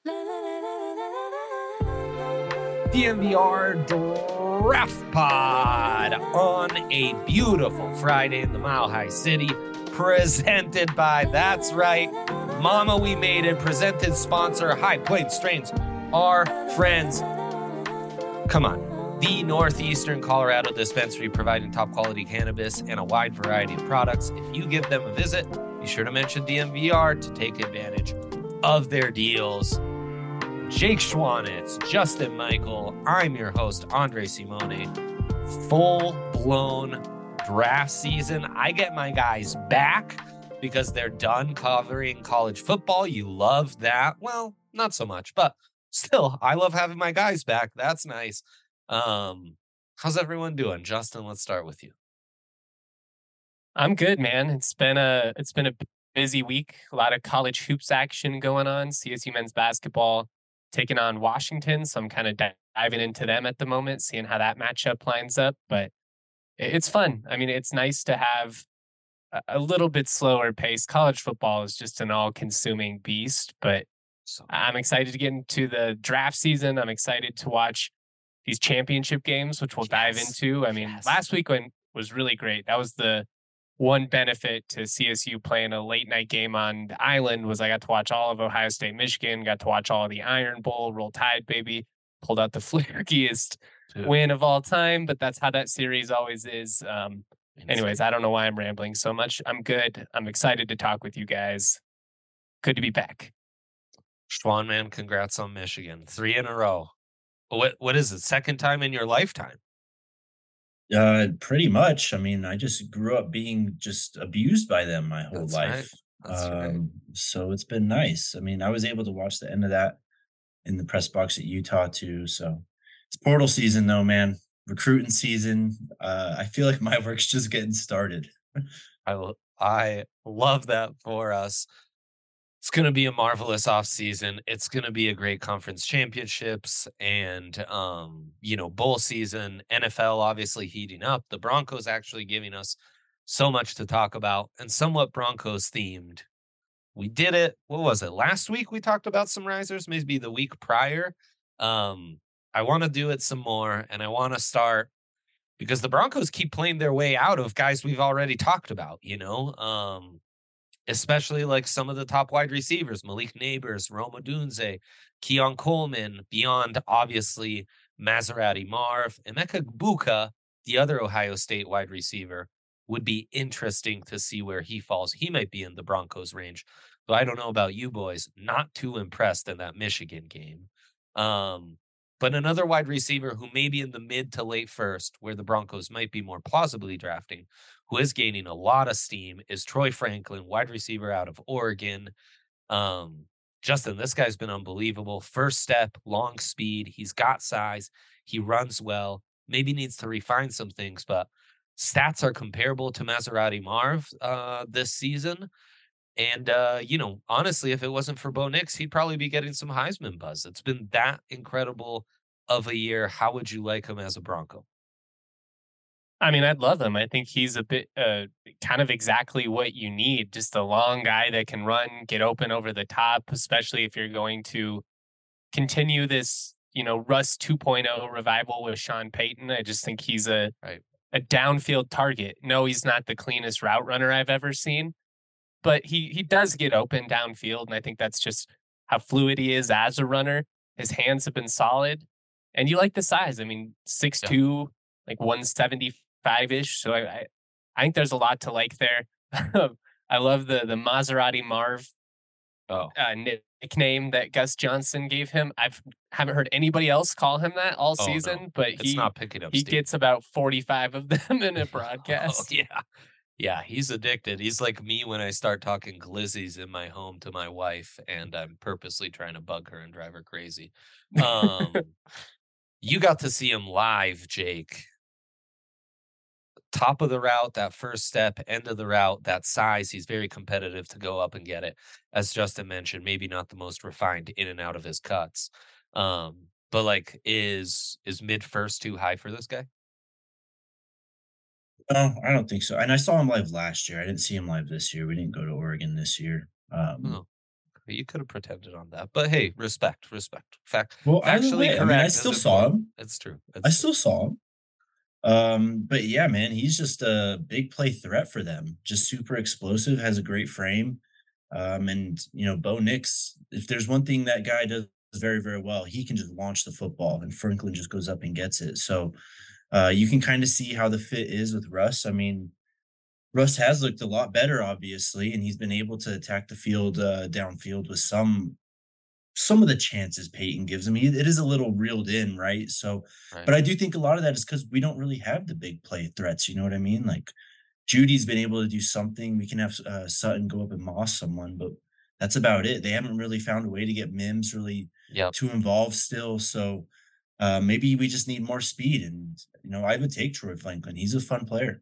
DNVR Draft Pod on a beautiful Friday in the Mile High City, presented by, that's right, Mama We Made It, presented sponsor, High Plains Strains, our friends. Come on, the Northeastern Colorado dispensary providing top quality cannabis and a wide variety of products. If you give them a visit, be sure to mention DNVR to take advantage of their deals. Jake Schwanitz, Justin Michael, I'm your host, Andre Simone. Full-blown draft season. I get my guys back because they're done covering college football. You love that. Well, not so much, but still, I love having my guys back. That's nice. How's everyone doing? Justin, let's start with you. I'm good, man. It's been a busy week. A lot of college hoops action going on. CSU men's basketball taking on Washington, so I'm kind of diving into them at the moment, seeing how that matchup lines up. But it's fun. I mean, it's nice to have a little bit slower pace. College football is just an all-consuming beast, but I'm excited to get into the draft season. I'm excited to watch these championship games, which we'll dive into. I mean, last week was really great. That was the one benefit to CSU playing a late night game on the island was I got to watch all of Ohio State, Michigan, got to watch all of the Iron Bowl, Roll Tide, baby, pulled out the flakiest win of all time, but that's how that series always is. Anyways, I don't know why I'm rambling so much. I'm good. I'm excited to talk with you guys. Good to be back. Schwan, man, congrats on Michigan. 3 in a row. What is it? Second time in your lifetime? Pretty much. I mean, I just grew up being just abused by them my whole life. Right. So it's been nice. I mean, I was able to watch the end of that in the press box at Utah too. So it's portal season though, man. Recruiting season. I feel like my work's just getting started. I love that for us. It's going to be a marvelous offseason. It's going to be a great conference championships and, bowl season. NFL obviously heating up. The Broncos actually giving us so much to talk about and somewhat Broncos themed. We did it. What was it? Last week we talked about some risers, maybe the week prior. I want to do it some more, and I want to start because the Broncos keep playing their way out of guys we've already talked about, especially like some of the top wide receivers, Malik Neighbors, Rome Odunze, Keon Coleman, beyond obviously Maserati Marv, Emeka Egbuka, the other Ohio State wide receiver, would be interesting to see where he falls. He might be in the Broncos range, but I don't know about you boys. Not too impressed in that Michigan game. But another wide receiver who may be in the mid to late first, where the Broncos might be more plausibly drafting, who is gaining a lot of steam, is Troy Franklin, wide receiver out of Oregon. Justin, this guy's been unbelievable. First step, long speed. He's got size. He runs well. Maybe needs to refine some things, but stats are comparable to Maserati Marv this season. And, honestly, if it wasn't for Bo Nix, he'd probably be getting some Heisman buzz. It's been that incredible of a year. How would you like him as a Bronco? I mean, I'd love him. I think he's a bit kind of exactly what you need. Just a long guy that can run, get open over the top, especially if you're going to continue this, Russ 2.0 revival with Sean Payton. I just think he's a downfield target. No, he's not the cleanest route runner I've ever seen, but he does get open downfield. And I think that's just how fluid he is as a runner. His hands have been solid. And you like the size. I mean, 6'2", like 175-ish. So I think there's a lot to like there. I love the Maserati Marv nickname that Gus Johnson gave him. I haven't heard anybody else call him that all season, no. but it's not picking up he steam. Gets about 45 of them in a broadcast. Yeah, he's addicted. He's like me when I start talking glizzies in my home to my wife, and I'm purposely trying to bug her and drive her crazy. You got to see him live, Jake. Top of the route, that first step, end of the route, that size. He's very competitive to go up and get it. As Justin mentioned, maybe not the most refined in and out of his cuts. But like, is mid first too high for this guy? No, I don't think so. And I saw him live last year. I didn't see him live this year. We didn't go to Oregon this year. You could have pretended on that. But hey, respect, respect. Well, either Factually way, I mean, I correct is still saw important. him. It's true. I It's true. still saw him. But yeah, man, he's just a big play threat for them. Just super explosive, has a great frame. And Bo Nix, if there's one thing that guy does very, very well, he can just launch the football and Franklin just goes up and gets it. So you can kind of see how the fit is with Russ. I mean, Russ has looked a lot better, obviously, and he's been able to attack the field downfield with some of the chances Peyton gives him. It is a little reeled in, right? So, Right. but I do think a lot of that is because we don't really have the big play threats. You know what I mean? Like Judy's been able to do something. We can have Sutton go up and moss someone, but that's about it. They haven't really found a way to get Mims really Yep. too involved still. So maybe we just need more speed. And I would take Troy Franklin. He's a fun player.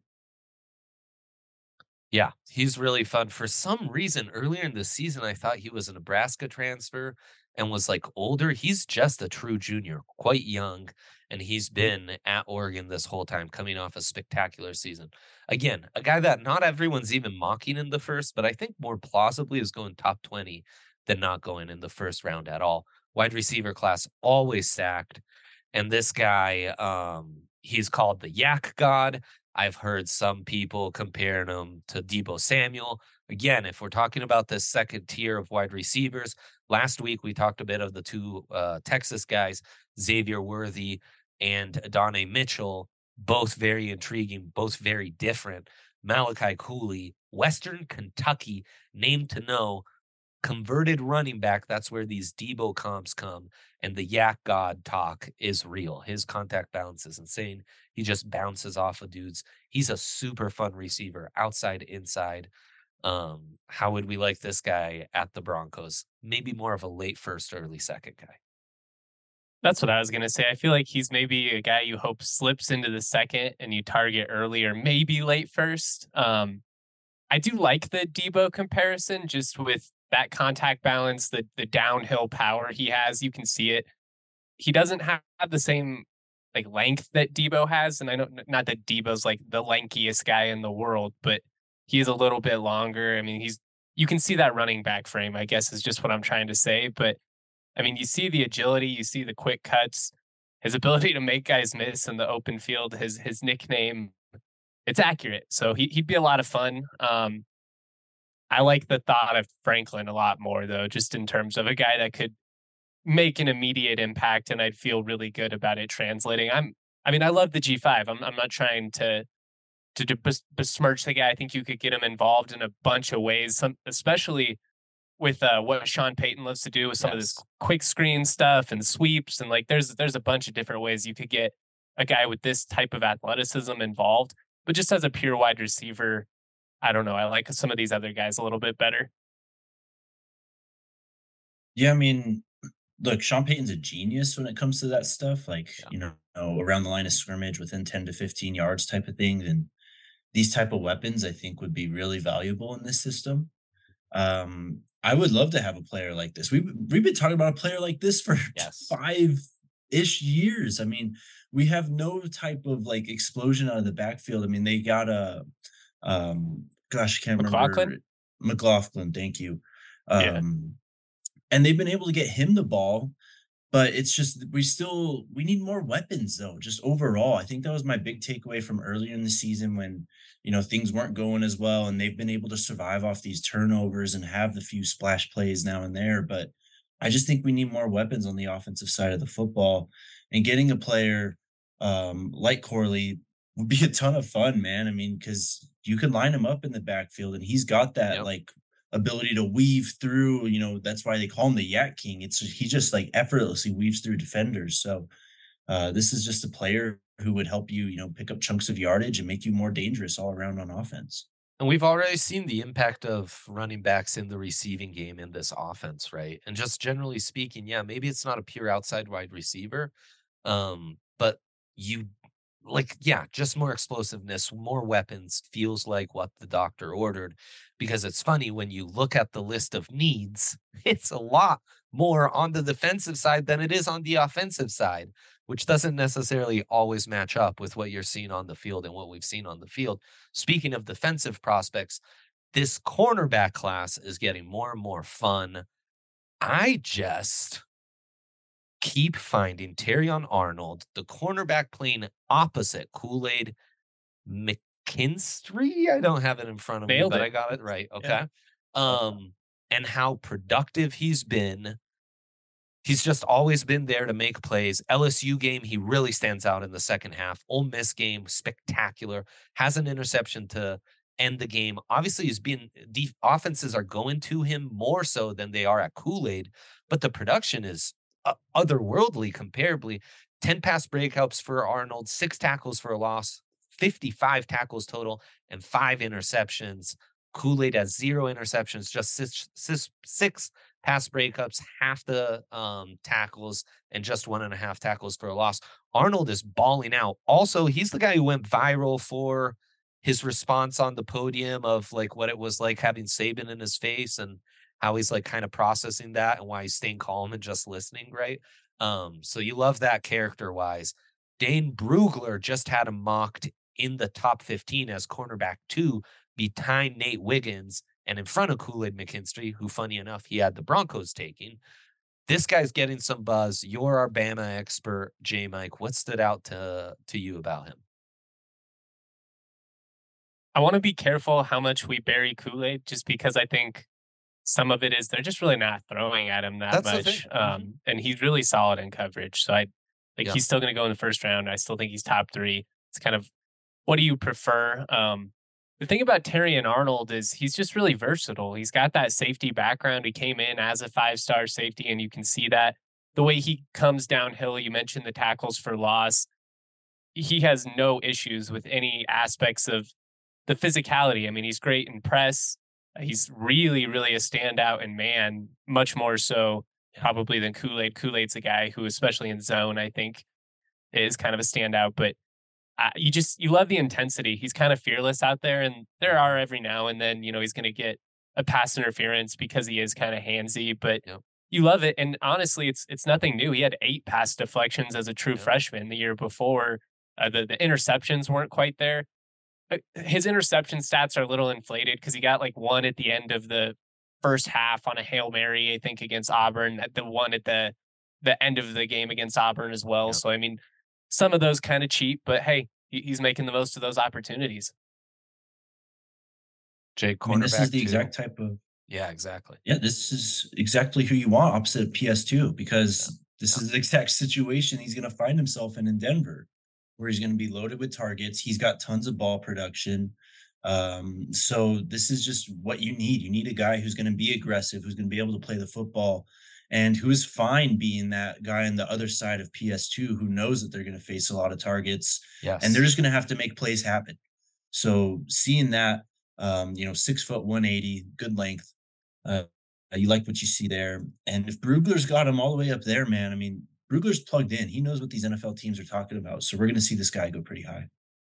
Yeah, he's really fun. For some reason, earlier in the season, I thought he was a Nebraska transfer and was like older. He's just a true junior, quite young, and he's been at Oregon this whole time, coming off a spectacular season. Again, a guy that not everyone's even mocking in the first, but I think more plausibly is going top 20 than not going in the first round at all. Wide receiver class always stacked. And this guy, he's called the Yak God. I've heard some people comparing him to Debo Samuel. Again, if we're talking about this second tier of wide receivers, last week we talked a bit of the two Texas guys, Xavier Worthy and Adonai Mitchell, both very intriguing, both very different. Malachi Cooley, Western Kentucky, named to know, converted running back. That's where these Debo comps come. And the Yak God talk is real. His contact balance is insane. He just bounces off of dudes. He's a super fun receiver, outside, inside. How would we like this guy at the Broncos? Maybe more of a late first, early second guy. That's what I was gonna say. I feel like he's maybe a guy you hope slips into the second and you target early or maybe late first. I do like the Debo comparison just with that contact balance, the downhill power he has. You can see it. He doesn't have the same like length that Debo has, and I know not that Debo's like the lankiest guy in the world, but he is a little bit longer. I mean, you can see that running back frame, I guess is just what I'm trying to say. But I mean, you see the agility, you see the quick cuts, his ability to make guys miss in the open field, his nickname, it's accurate. So he'd be a lot of fun. I like the thought of Franklin a lot more though, just in terms of a guy that could make an immediate impact and I'd feel really good about it translating. I mean, I love the G5. I'm not trying to besmirch the guy. I think you could get him involved in a bunch of ways, especially with what Sean Payton loves to do with some of this quick screen stuff and sweeps. And like, there's a bunch of different ways you could get a guy with this type of athleticism involved. But just as a pure wide receiver, I don't know. I like some of these other guys a little bit better. Yeah, I mean, look, Sean Payton's a genius when it comes to that stuff, like, Yeah. around the line of scrimmage within 10 to 15 yards type of thing. And these type of weapons, I think, would be really valuable in this system. I would love to have a player like this. We've been talking about a player like this for Yes. 5-ish years. I mean, we have no type of like explosion out of the backfield. I mean, they got gosh, I can't McLaughlin? remember. McLaughlin, thank you. Yeah. And they've been able to get him the ball, but it's just we need more weapons though, just overall. I think that was my big takeaway from earlier in the season when, things weren't going as well and they've been able to survive off these turnovers and have the few splash plays now and there, but I just think we need more weapons on the offensive side of the football and getting a player like Corley would be a ton of fun, man. I mean, cuz you can line him up in the backfield and he's got that Yep. like ability to weave through, that's why they call him the Yak King. He just like effortlessly weaves through defenders. So this is just a player who would help you, pick up chunks of yardage and make you more dangerous all around on offense. And we've already seen the impact of running backs in the receiving game in this offense, right? And just generally speaking, yeah, maybe it's not a pure outside wide receiver, but you yeah, just more explosiveness, more weapons feels like what the doctor ordered. Because it's funny when you look at the list of needs, it's a lot more on the defensive side than it is on the offensive side, which doesn't necessarily always match up with what you're seeing on the field and what we've seen on the field. Speaking of defensive prospects, this cornerback class is getting more and more fun. I just keep finding Terrion Arnold, the cornerback playing opposite Kool-Aid McKinstry? I don't have it in front of me, Nailed but I it. got it right. Yeah. Okay. And how productive he's been. He's just always been there to make plays. LSU game, he really stands out in the second half. Ole Miss game, spectacular. Has an interception to end the game. Obviously, the offenses are going to him more so than they are at Kool-Aid, but the production is otherworldly comparably. 10 pass breakups for Arnold, 6 tackles for a loss, 55 tackles total, and 5 interceptions. Kool-Aid has 0 interceptions, just six pass breakups, half the tackles, and just 1.5 tackles for a loss. Arnold is balling out. Also, he's the guy who went viral for his response on the podium of like what it was like having Saban in his face and how he's like kind of processing that and why he's staying calm and just listening, right? So you love that character wise. Dane Brugler just had him mocked in the top 15 as cornerback 2 behind Nate Wiggins and in front of Kool-Aid McKinstry, who, funny enough, he had the Broncos taking. This guy's getting some buzz. You're our Bama expert, J. Mike. What stood out to you about him? I want to be careful how much we bury Kool-Aid, just because I think some of it is they're just really not throwing at him that That's the thing. much. And he's really solid in coverage. So Yeah. he's still going to go in the first round. I still think he's top 3. It's kind of, what do you prefer? The thing about Terrion Arnold is he's just really versatile. He's got that safety background. He came in as a 5-star safety, and you can see that the way he comes downhill. You mentioned the tackles for loss. He has no issues with any aspects of the physicality. I mean, he's great in press. He's really, really a standout in man, much more so probably than Kool-Aid. Kool-Aid's a guy who, especially in zone, I think is kind of a standout. But you love the intensity. He's kind of fearless out there, and there are every now and then, he's going to get a pass interference because he is kind of handsy, but Yep. you love it. And honestly, it's nothing new. He had 8 pass deflections as a true Yep. freshman the year before. The interceptions weren't quite there. His interception stats are a little inflated because he got like one at the end of the first half on a Hail Mary, I think, against Auburn, the one at the end of the game against Auburn as well. Yep. So, I mean, some of those kind of cheap, but hey, he's making the most of those opportunities. Jay, I mean, this is cornerback the 2. exact type of Yeah, exactly. yeah, this is exactly who you want opposite PS2 because this is the exact situation he's going to find himself in Denver, where he's going to be loaded with targets. He's got tons of ball production. So this is just what you need. You need a guy who's going to be aggressive, who's going to be able to play the football, and who is fine being that guy on the other side of PS2 who knows that they're going to face a lot of targets Yes. and they're just going to have to make plays happen. So seeing that, 6 foot 180, good length. You like what you see there. And if Brugler's got him all the way up there, man, I mean, Brugler's plugged in. He knows what these NFL teams are talking about. So we're going to see this guy go pretty high.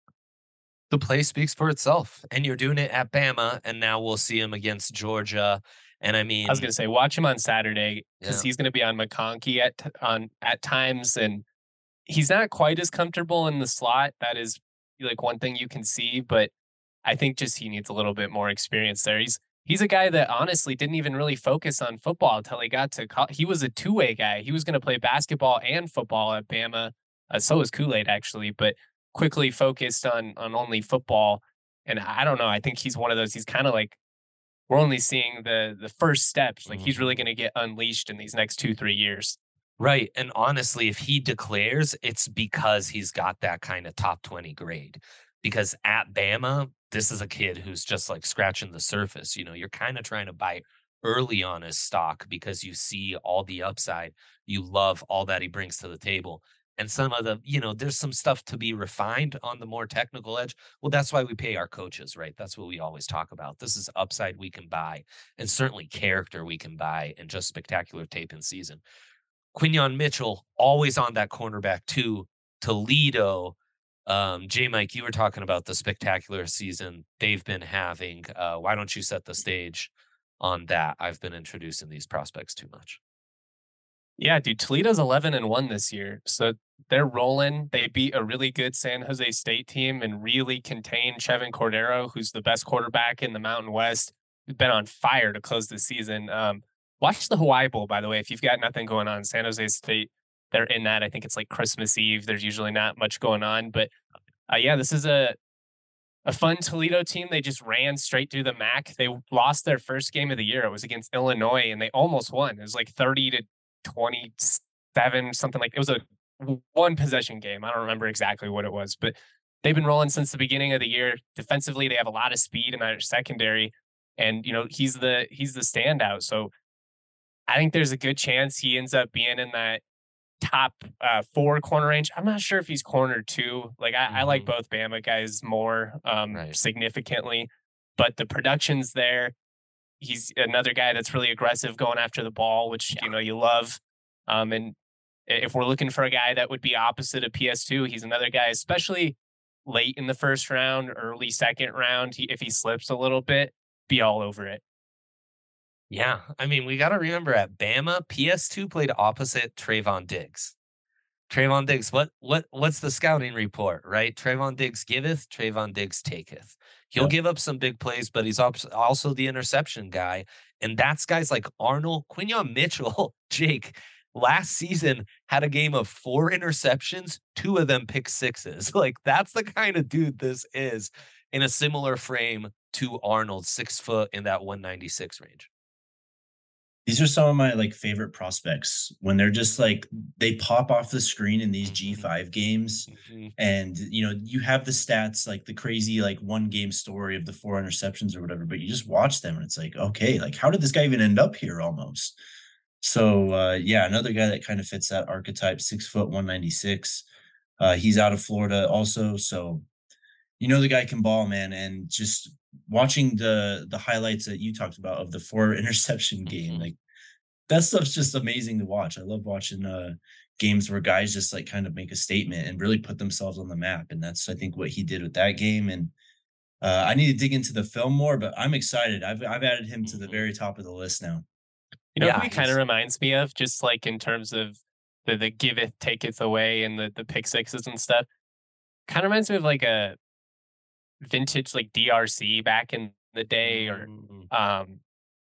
The play speaks for itself, and you're doing it at Bama, and now we'll see him against Georgia. And I mean, I was going to say, watch him on Saturday because Yeah. he's going to be on McConkey at times, and he's not quite as comfortable in the slot. That is like one thing you can see, but I think just he needs a little bit more experience there. He's a guy that honestly didn't even really focus on football until he got to college. He was a two-way guy. He was going to play basketball and football at Bama. So was Kool-Aid actually, but quickly focused on only football. And I don't know. I think he's one of those. He's kind of like, we're only seeing the first steps. Like he's really going to get unleashed in these next 2-3 years. Right. And honestly, if he declares, it's because he's got that kind of top 20 grade. Because at Bama, this is a kid who's just like scratching the surface. You're kind of trying to buy early on his stock because you see all the upside. You love all that he brings to the table. And some of the, there's some stuff to be refined on the more technical edge. Well, that's why we pay our coaches, right? That's what we always talk about. This is upside we can buy, and certainly character we can buy, and just spectacular tape in season. Quinyon Mitchell, always on that cornerback too. Toledo. J. Mike, you were talking about the spectacular season they've been having. Why don't you set the stage on that? I've been introducing these prospects too much. Yeah, dude, Toledo's 11-1 this year. So they're rolling. They beat a really good San Jose State team and really contained Chevin Cordero, who's the best quarterback in the Mountain West. He's been on fire to close the season. Watch the Hawaii Bowl, by the way, if you've got nothing going on. San Jose State, they're in that. I think it's like Christmas Eve. There's usually not much going on, but yeah, this is a fun Toledo team. They just ran straight through the MAC. They lost their first game of the year. It was against Illinois, and they almost won. It was like 30-27, something like it was a one possession game. I don't remember exactly what it was, but they've been rolling since the beginning of the year. Defensively, they have a lot of speed in their secondary, and he's the standout. So I think there's a good chance he ends up being in that top 4 corner range. I'm not sure if he's corner 2. Like I like both Bama guys more significantly, but the production's there. He's another guy that's really aggressive going after the ball, which you love. And if we're looking for a guy that would be opposite of PS2, he's another guy, especially late in the first round, early second round. If he slips a little bit, be all over it. Yeah, I mean, we got to remember at Bama, PS2 played opposite Trayvon Diggs. Trayvon Diggs, what's the scouting report, right? Trayvon Diggs giveth, Trayvon Diggs taketh. He'll give up some big plays, but he's also the interception guy. And that's guys like Arnold, Quinyon Mitchell, Jake, last season had a game of 4 interceptions, 2 of them pick sixes. Like, that's the kind of dude this is in a similar frame to Arnold, 6 foot in that 196 range. These are some of my like favorite prospects when they're just like they pop off the screen in these G5 games, and you have the stats like the crazy like one game story of the 4 interceptions or whatever, but you just watch them and it's like, okay, like how did this guy even end up here almost? So yeah, another guy that kind of fits that archetype, 6 foot 196. He's out of Florida also, so the guy can ball, man. And just watching the highlights that you talked about of the 4 interception game, like that stuff's just amazing to watch. I love watching games where guys just like kind of make a statement and really put themselves on the map. And that's, I think, what he did with that game. And I need to dig into the film more, but I'm excited. I've added him to the very top of the list now. Who he kind of reminds me of, just like in terms of the giveth, taketh away and the pick sixes and stuff. Kind of reminds me of like a vintage like DRC back in the day, or am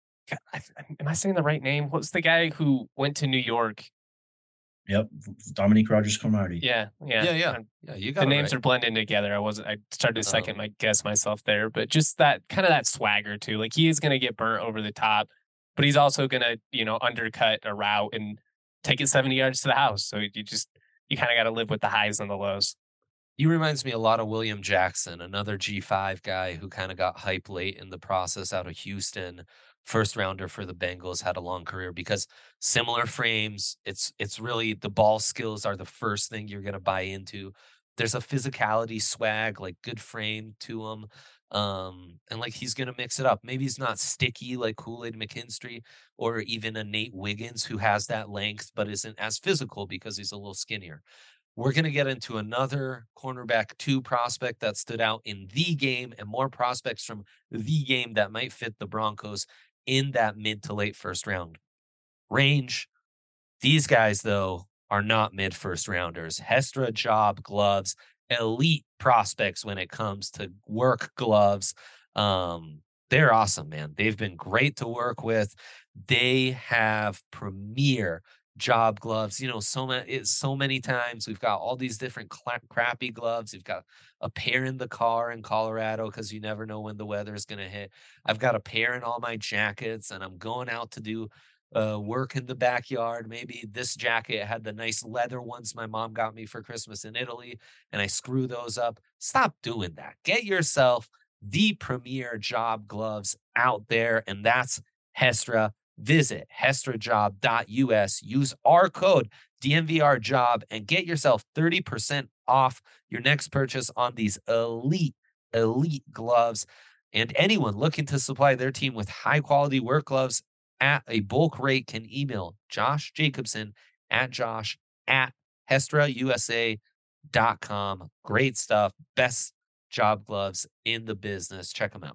I saying the right name? What's the guy who went to New York? Yep, Dominique Rodgers-Cromartie. Yeah. You got the names are blending together. I started to second my guess myself there, but just that kind of that swagger too. Like he is going to get burnt over the top, but he's also going to undercut a route and take it 70 yards to the house. So you kind of got to live with the highs and the lows. He reminds me a lot of William Jackson, another G5 guy who kind of got hype late in the process out of Houston. First rounder for the Bengals, had a long career because similar frames. It's really the ball skills are the first thing you're going to buy into. There's a physicality, swag, like good frame to him. And like he's going to mix it up. Maybe he's not sticky like Kool-Aid McKinstry or even a Nate Wiggins who has that length but isn't as physical because he's a little skinnier. We're going to get into another cornerback 2 prospect that stood out in the game and more prospects from the game that might fit the Broncos in that mid to late first round range. These guys, though, are not mid first rounders. Hestra Job Gloves, elite prospects when it comes to work gloves. They're awesome, man. They've been great to work with. They have premier job gloves. So many times we've got all these different crappy gloves. You've got a pair in the car in Colorado because you never know when the weather is going to hit. I've got a pair in all my jackets, and I'm going out to do work in the backyard. Maybe this jacket had the nice leather ones my mom got me for Christmas in Italy, and I screw those up. Stop doing that. Get yourself the premier job gloves out there, and that's Hestra. Visit hestrajob.us, use our code DNVRjob, and get yourself 30% off your next purchase on these elite gloves. And anyone looking to supply their team with high-quality work gloves at a bulk rate can email Josh Jacobson at josh@hestrausa.com. Great stuff. Best job gloves in the business. Check them out.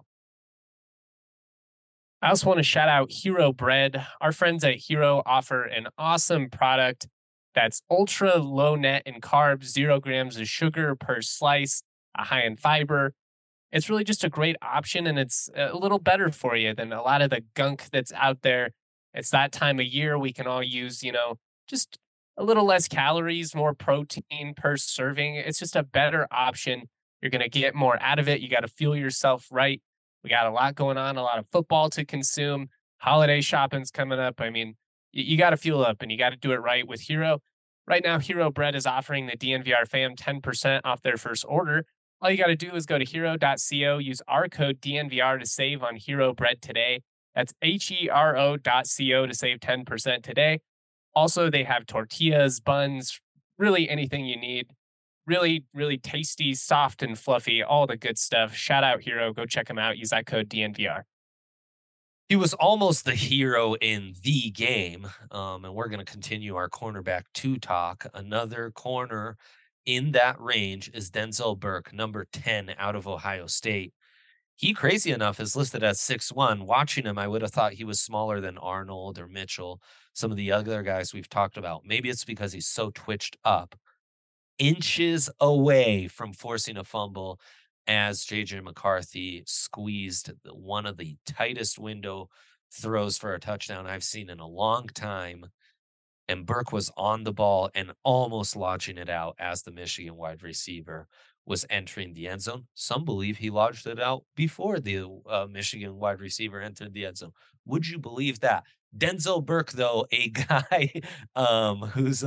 I also want to shout out Hero Bread. Our friends at Hero offer an awesome product that's ultra low net in carbs, 0 grams of sugar per slice, high in fiber. It's really just a great option, and it's a little better for you than a lot of the gunk that's out there. It's that time of year we can all use, just a little less calories, more protein per serving. It's just a better option. You're going to get more out of it. You got to fuel yourself right. We got a lot going on, a lot of football to consume. Holiday shopping's coming up. I mean, you got to fuel up and you got to do it right with Hero. Right now, Hero Bread is offering the DNVR fam 10% off their first order. All you got to do is go to hero.co, use our code DNVR to save on Hero Bread today. That's HERO.co to save 10% today. Also, they have tortillas, buns, really anything you need. Really, really tasty, soft, and fluffy, all the good stuff. Shout out Hero. Go check them out. Use that code DNVR. He was almost the hero in the game. And we're going to continue our cornerback 2 talk. Another corner in that range is Denzel Burke, number 10 out of Ohio State. He, crazy enough, is listed as 6'1". Watching him, I would have thought he was smaller than Arnold or Mitchell, some of the other guys we've talked about. Maybe it's because he's so twitched up. Inches away from forcing a fumble as JJ McCarthy squeezed one of the tightest window throws for a touchdown I've seen in a long time. And Burke was on the ball and almost launching it out as the Michigan wide receiver was entering the end zone. Some believe he lodged it out before the Michigan wide receiver entered the end zone. Would you believe that? Denzel Burke, though, a guy who's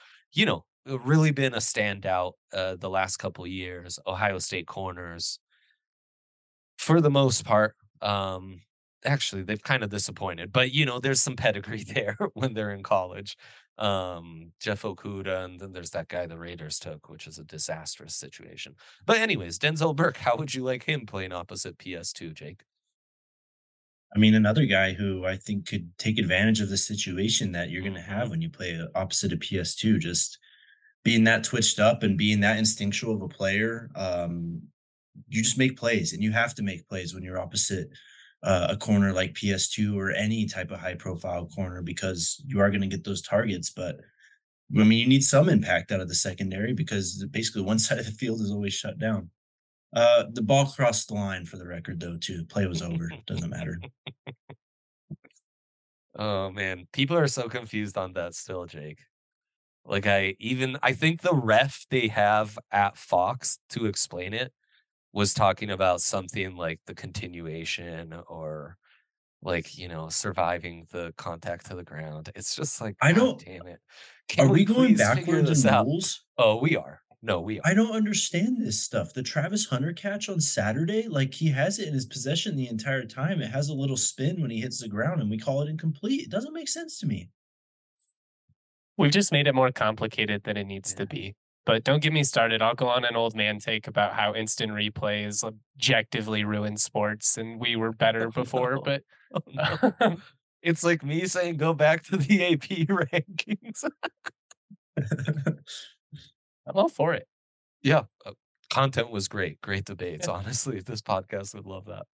really been a standout the last couple years. Ohio State corners, for the most part, actually, they've kind of disappointed, but there's some pedigree there when they're in college. Jeff Okuda, and then there's that guy the Raiders took, which is a disastrous situation. But anyways, Denzel Burke, how would you like him playing opposite PS2, Jake? I mean, another guy who I think could take advantage of the situation that you're going to have Mhm. when you play opposite of PS2, just being that twitched up and being that instinctual of a player. You just make plays, and you have to make plays when you're opposite a corner like PS2 or any type of high profile corner, because you are going to get those targets. But I mean, you need some impact out of the secondary because basically one side of the field is always shut down. The ball crossed the line, for the record, though, too. Play was over. Doesn't matter. Oh man, people are so confused on that still, Jake. Like I think the ref they have at Fox to explain it was talking about something like the continuation or like, surviving the contact to the ground. It's just like, I God don't. damn it. Are Can we we going please figure backwards this in out? rules? Oh, we are. No, we I are. don't understand this stuff. The Travis Hunter catch on Saturday, like he has it in his possession the entire time. It has a little spin when he hits the ground, and we call it incomplete. It doesn't make sense to me. We've just made it more complicated than it needs to Yeah. be. But don't get me started. I'll go on an old man take about how instant replays objectively ruin sports and we were better Oh, before. no. But Oh, no. It's like me saying go back to the AP rankings. I'm all for it. Yeah. Content was great. Great debates. Yeah. Honestly, this podcast would love that.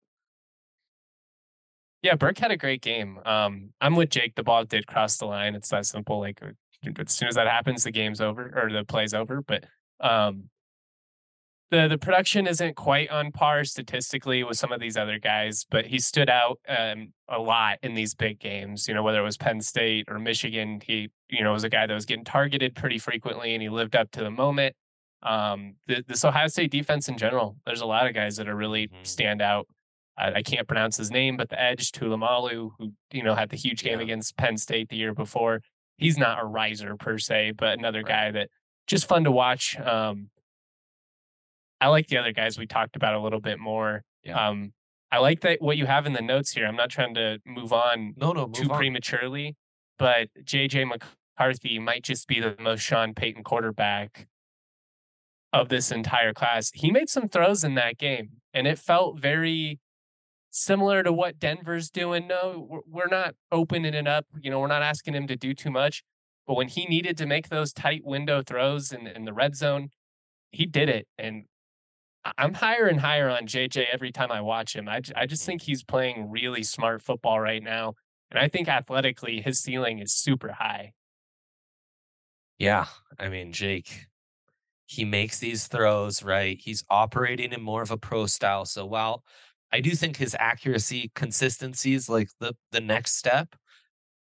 Yeah, Burke had a great game. I'm with Jake. The ball did cross the line. It's that simple. Like as soon as that happens, the game's over or the play's over. But the production isn't quite on par statistically with some of these other guys, but he stood out a lot in these big games. Whether it was Penn State or Michigan, he was a guy that was getting targeted pretty frequently, and he lived up to the moment. This Ohio State defense in general, there's a lot of guys that are really stand out. I can't pronounce his name, but the edge Tulamalu, who had the huge game Yeah. against Penn State the year before. He's not a riser per se, but another Right. guy that just fun to watch. I like the other guys we talked about a little bit more. Yeah. I like that what you have in the notes here. I'm not trying to move on No, too move on. prematurely, but JJ McCarthy might just be the most Sean Payton quarterback of this entire class. He made some throws in that game, and it felt very similar to what Denver's doing. No, we're not opening it up. We're not asking him to do too much. But when he needed to make those tight window throws in the red zone, he did it. And I'm higher and higher on JJ every time I watch him. I just think he's playing really smart football right now. And I think athletically, his ceiling is super high. Yeah. I mean, Jake, he makes these throws, right? He's operating in more of a pro style. So while I do think his accuracy consistency is like the next step,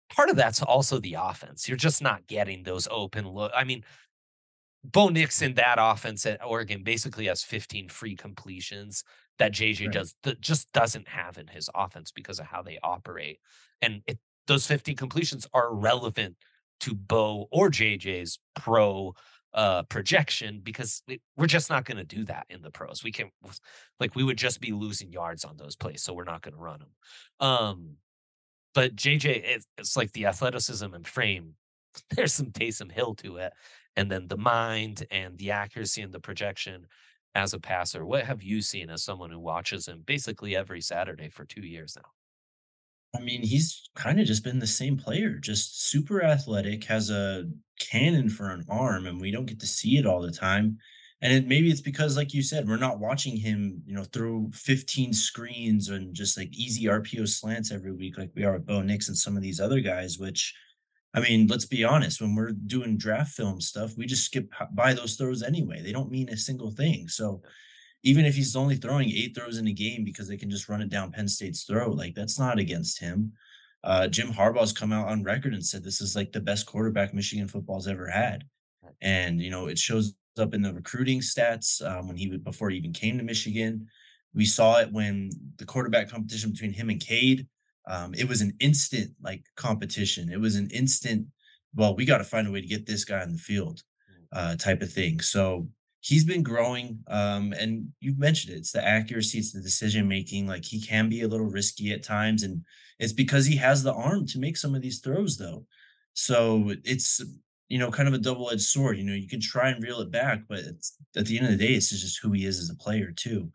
part of that's also the offense. You're just not getting those open look. I mean, Bo Nix in that offense at Oregon basically has 15 free completions that JJ Right. just doesn't have in his offense because of how they operate. And those 15 completions are relevant to Bo or JJ's pro projection because we're just not going to do that in the pros. We can we would just be losing yards on those plays, so we're not going to run them. But JJ, it's like the athleticism and frame. There's some Taysom Hill to it, and then the mind and the accuracy and the projection as a passer. What have you seen as someone who watches him basically every Saturday for 2 years now? I mean, he's kind of just been the same player, just super athletic, has a cannon for an arm, and we don't get to see it all the time. And maybe it's because, like you said, we're not watching him, through 15 screens and just like easy RPO slants every week, like we are with Bo Nix and some of these other guys. Which, I mean, let's be honest, when we're doing draft film stuff, we just skip by those throws anyway. They don't mean a single thing. So even if he's only throwing 8 throws in a game because they can just run it down Penn State's throat, like that's not against him. Jim Harbaugh's come out on record and said this is like the best quarterback Michigan football's ever had. And it shows up in the recruiting stats when before he even came to Michigan. We saw it when the quarterback competition between him and Cade. It was an instant competition. It was an instant, well, we got to find a way to get this guy on the field type of thing. So he's been growing. And you've mentioned it. It's the accuracy, it's the decision making. Like he can be a little risky at times. And it's because he has the arm to make some of these throws, though. So it's, kind of a double-edged sword. You can try and reel it back, but at the end of the day, it's just who he is as a player, too.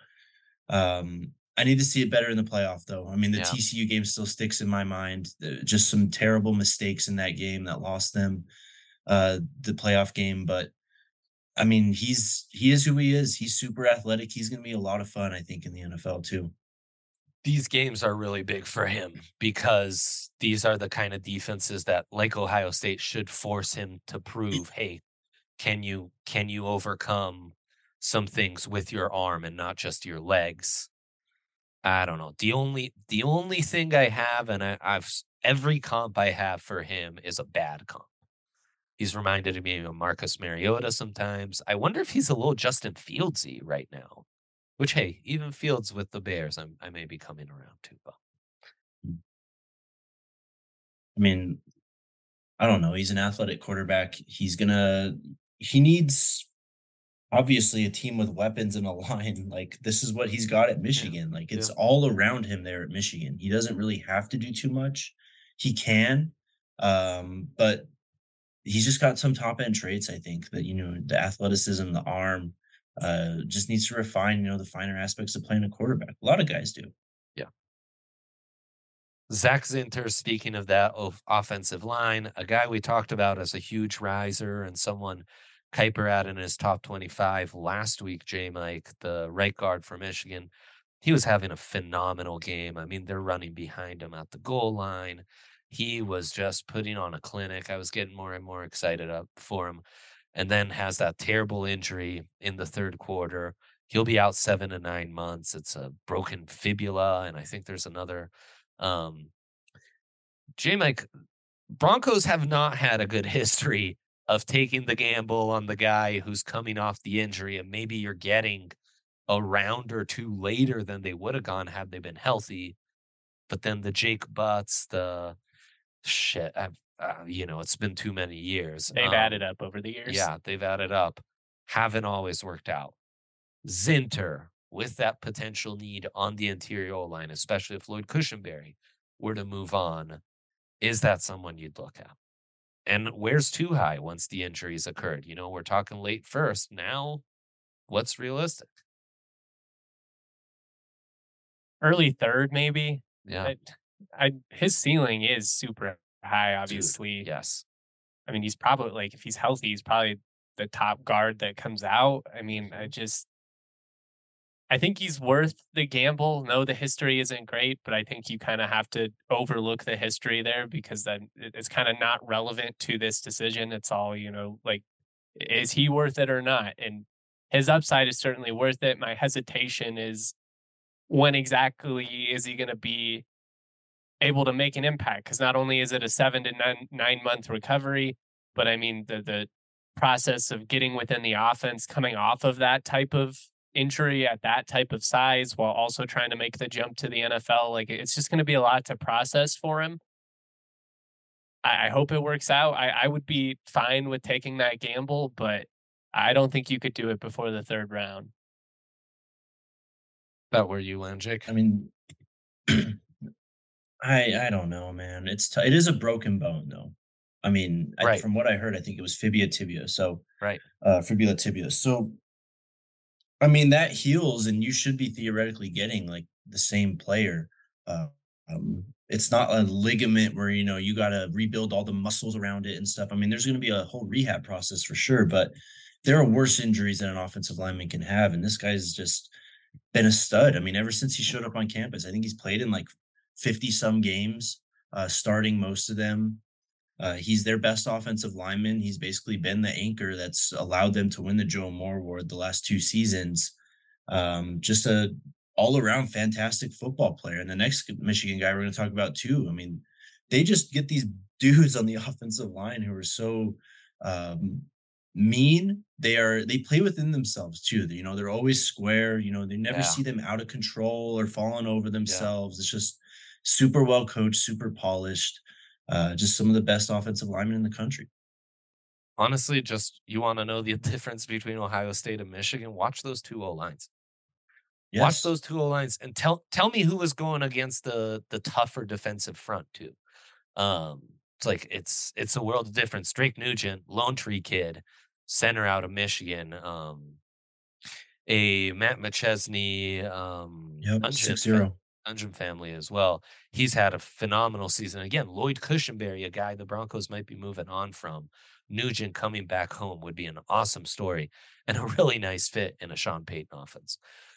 I need to see it better in the playoff, though. I mean, the TCU game still sticks in my mind. Just some terrible mistakes in that game that lost them the playoff game. But I mean, he is who he is. He's super athletic. He's going to be a lot of fun, I think, in the NFL too. These games are really big for him because these are the kind of defenses that, like Ohio State, should force him to prove, hey, can you overcome some things with your arm and not just your legs? I don't know. The only thing I have, and I've every comp I have for him is a bad comp. He's reminded me of Marcus Mariota sometimes. I wonder if he's a little Justin Fieldsy right now. Which, hey, even Fields with the Bears, I may be coming around to. I mean, I don't know. He's an athletic quarterback. He needs obviously a team with weapons and a line. Like this is what he's got at Michigan. Like it's all around him there at Michigan. He doesn't really have to do too much. He can, but he's just got some top end traits. I think that the athleticism, the arm, just needs to refine, the finer aspects of playing a quarterback. A lot of guys do. Yeah. Zach Zinter, speaking of that offensive line, a guy we talked about as a huge riser and someone Kuiper had in his top 25 last week, Mike, the right guard for Michigan. He was having a phenomenal game. I mean, they're running behind him at the goal line. He was just putting on a clinic. I was getting more and more excited up for him. And then has that terrible injury in the third quarter. He'll be out 7 to 9 months. It's a broken fibula, and I think there's another. Mike, Broncos have not had a good history of taking the gamble on the guy who's coming off the injury, and maybe you're getting a round or two later than they would have gone had they been healthy. But then the Jake Butts, the shit, it's been too many years. They've added up over the years. Yeah, they've added up. Haven't always worked out. Zinter, with that potential need on the interior line, especially if Lloyd Cushenberry were to move on, is that someone you'd look at? And where's too high once the injuries occurred? We're talking late first. Now, what's realistic? Early third, maybe. Yeah. His ceiling is super high, obviously. Dude, yes. I mean, he's probably if he's healthy, he's probably the top guard that comes out. I mean, I think he's worth the gamble. No, the history isn't great, but I think you kind of have to overlook the history there because then it's kind of not relevant to this decision. It's all, is he worth it or not? And his upside is certainly worth it. My hesitation is when exactly is he going to be able to make an impact. Because not only is it a 7 to 9 month recovery, but I mean the process of getting within the offense, coming off of that type of injury at that type of size, while also trying to make the jump to the NFL, like it's just going to be a lot to process for him. I hope it works out. I would be fine with taking that gamble, but I don't think you could do it before the third round. That were you, Lanjic? I mean, I don't know, man. It is a broken bone though. I mean, Right. from what I heard, I think it was fibula tibia. So Right. fibula tibia. So I mean, that heals, and you should be theoretically getting like the same player. Uh, it's not a ligament where you got to rebuild all the muscles around it and stuff. I mean, there's going to be a whole rehab process for sure, but there are worse injuries that an offensive lineman can have, and this guy's just been a stud. I mean, ever since he showed up on campus, I think he's played in like 50 some games, starting most of them. He's their best offensive lineman. He's basically been the anchor that's allowed them to win the Joe Moore Award the last 2 seasons. Just a all around fantastic football player. And the next Michigan guy we're going to talk about too. I mean, they just get these dudes on the offensive line who are so mean. They play within themselves too. They're always square. They never see them out of control or falling over themselves. It's just super well coached, super polished. Just some of the best offensive linemen in the country. Honestly, just you want to know the difference between Ohio State and Michigan? Watch those two O-lines. Yes. Watch those two O-lines and tell me who was going against the tougher defensive front too. It's like it's a world of difference. Drake Nugent, Lone Tree kid, center out of Michigan. A Matt McChesney, Yep, 6-0. Ungem family as well. He's had a phenomenal season. Again, Lloyd Cushenberry, a guy the Broncos might be moving on from. Nugent coming back home would be an awesome story and a really nice fit in a Sean Payton offense.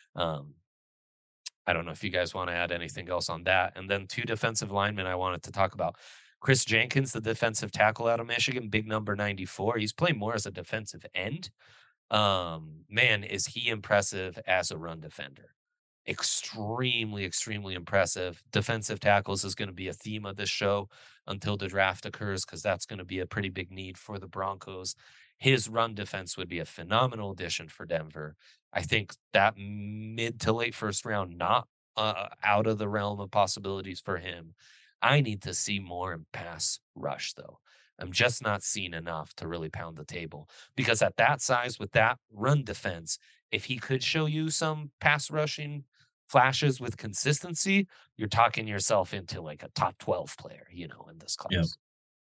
I don't know if you guys want to add anything else on that. And then two defensive linemen I wanted to talk about. Chris Jenkins, the defensive tackle out of Michigan, big number 94. He's playing more as a defensive end. Man, is he impressive as a run defender. Extremely, extremely impressive. Defensive tackles is going to be a theme of this show until the draft occurs, because that's going to be a pretty big need for the Broncos. His run defense would be a phenomenal addition for Denver. I think that mid to late first round, not out of the realm of possibilities for him. I need to see more in pass rush, though. I'm just not seeing enough to really pound the table, because at that size with that run defense, if he could show you some pass rushing flashes with consistency, you're talking yourself into like a top 12 player, in this class. Yep.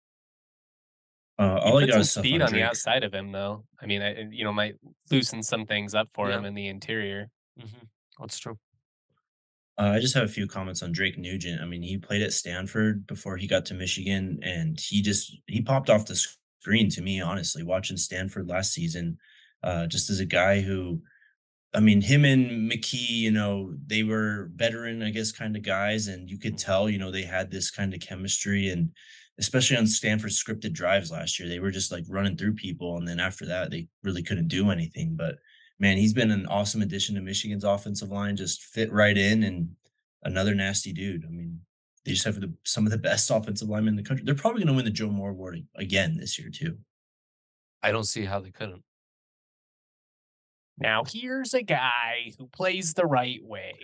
He put some speed on the outside of him, though. I mean, might loosen some things up for him in the interior. Mm-hmm. That's true. I just have a few comments on Drake Nugent. I mean, he played at Stanford before he got to Michigan, and he popped off the screen to me, honestly, watching Stanford last season, just as a guy who, I mean, him and McKee, they were veteran, I guess, kind of guys, and you could tell, they had this kind of chemistry, and especially on Stanford's scripted drives last year, they were just like running through people, and then after that, they really couldn't do anything. But man, he's been an awesome addition to Michigan's offensive line, just fit right in, and another nasty dude. I mean, they just have some of the best offensive linemen in the country. They're probably going to win the Joe Moore Award again this year, too. I don't see how they couldn't. Now, here's a guy who plays the right way.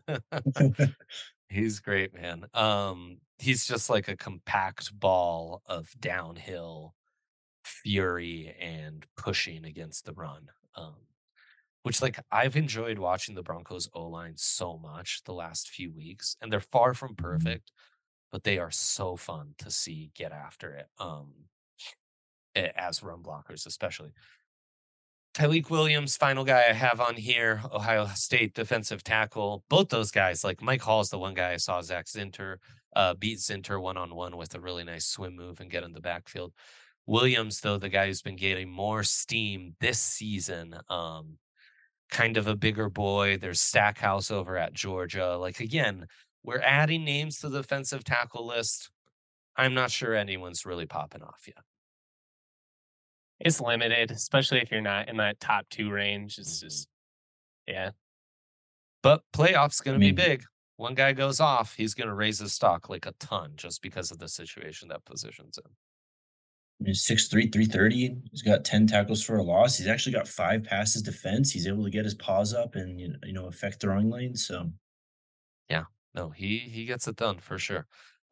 He's great, man. He's just like a compact ball of downhill fury and pushing against the run. Which, like, I've enjoyed watching the Broncos O-line so much the last few weeks, and they're far from perfect, but they are so fun to see get after it. As run blockers, especially. Tyleik Williams, final guy I have on here, Ohio State defensive tackle. Both those guys, like Mike Hall is the one guy I saw Zach Zinter beat Zinter one-on-one with a really nice swim move and get in the backfield. Williams, though, the guy who's been getting more steam this season, kind of a bigger boy. There's Stackhouse over at Georgia. Like, again, we're adding names to the defensive tackle list. I'm not sure anyone's really popping off yet. It's limited, especially if you're not in that top 2 range. It's just, yeah. But playoffs going to be big. one guy goes off, he's going to raise his stock like a ton just because of the situation that position's in. He's 6'3", 330. He's got 10 tackles for a loss. He's actually got 5 passes defense. He's able to get his paws up and affect throwing lanes. So yeah, no, he gets it done for sure.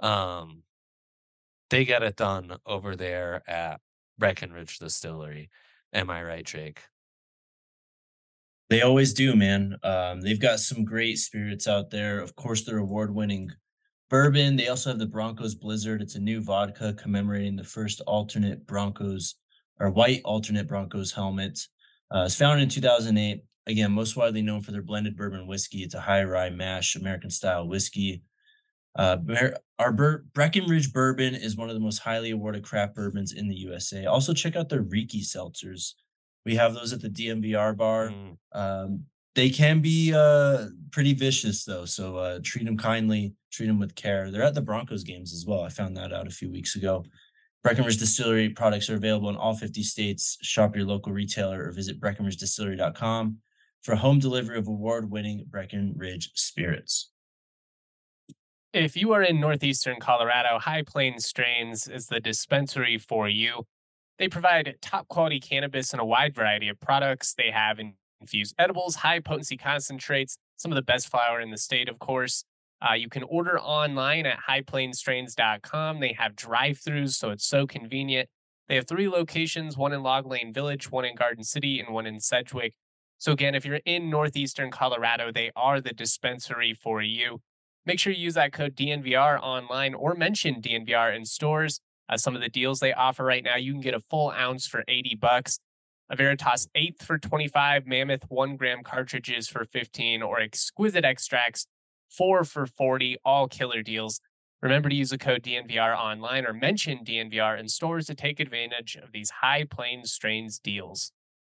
They get it done over there at Breckenridge Distillery. Am I right, Jake? They always do, man. They've got some great spirits out there. Of course, their award-winning bourbon. They also have the Broncos Blizzard. It's a new vodka commemorating the first alternate Broncos or white alternate Broncos helmet. It's founded in 2008. Again, most widely known for their blended bourbon whiskey. It's a high rye mash American style whiskey. Breckenridge bourbon is one of the most highly awarded craft bourbons in the USA. Also, check out their Riki seltzers. We have those at the DMVR bar. They can be pretty vicious, though. So treat them kindly, treat them with care. They're at the Broncos games as well. I found that out a few weeks ago. Breckenridge Distillery products are available in all 50 states. Shop your local retailer or visit BreckenridgeDistillery.com for home delivery of award-winning Breckenridge spirits. If you are in northeastern Colorado, High Plains Strains is the dispensary for you. They provide top quality cannabis in a wide variety of products. They have infused edibles, high potency concentrates, some of the best flower in the state, of course. You can order online at highplainstrains.com. They have drive-thrus, so it's so convenient. They have 3 locations, one in Log Lane Village, one in Garden City, and one in Sedgwick. So again, if you're in northeastern Colorado, they are the dispensary for you. Make sure you use that code DNVR online or mention DNVR in stores. Some of the deals they offer right now, you can get a full ounce for $80, a Veritas 8th for $25, Mammoth 1 gram cartridges for $15, or Exquisite Extracts 4 for $40, all killer deals. Remember to use the code DNVR online or mention DNVR in stores to take advantage of these High Plains Strains deals.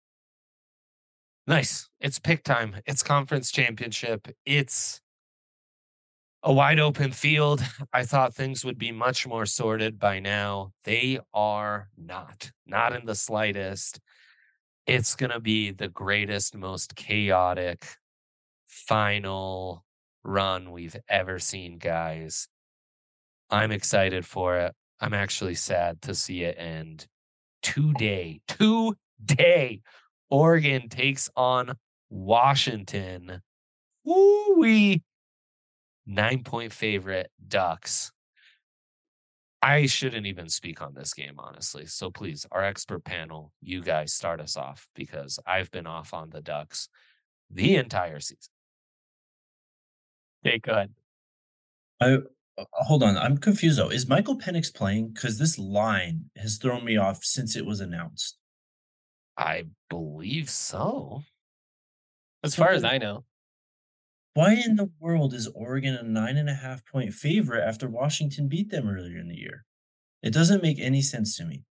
Nice. It's pick time. It's conference championship. It's a wide open field. I thought things would be much more sorted by now. They are not in the slightest. It's going to be the greatest, most chaotic final run we've ever seen, guys. I'm excited for it. I'm actually sad to see it end. Today, Oregon takes on Washington. Woo-wee. 9-point favorite Ducks. I shouldn't even speak on this game, honestly. So please, our expert panel, you guys start us off because I've been off on the Ducks the entire season. Okay, go ahead. Hold on. I'm confused, though. Is Michael Penix playing? Because this line has thrown me off since it was announced. I believe so. As far as I know. Why in the world is Oregon a 9.5-point favorite after Washington beat them earlier in the year? It doesn't make any sense to me.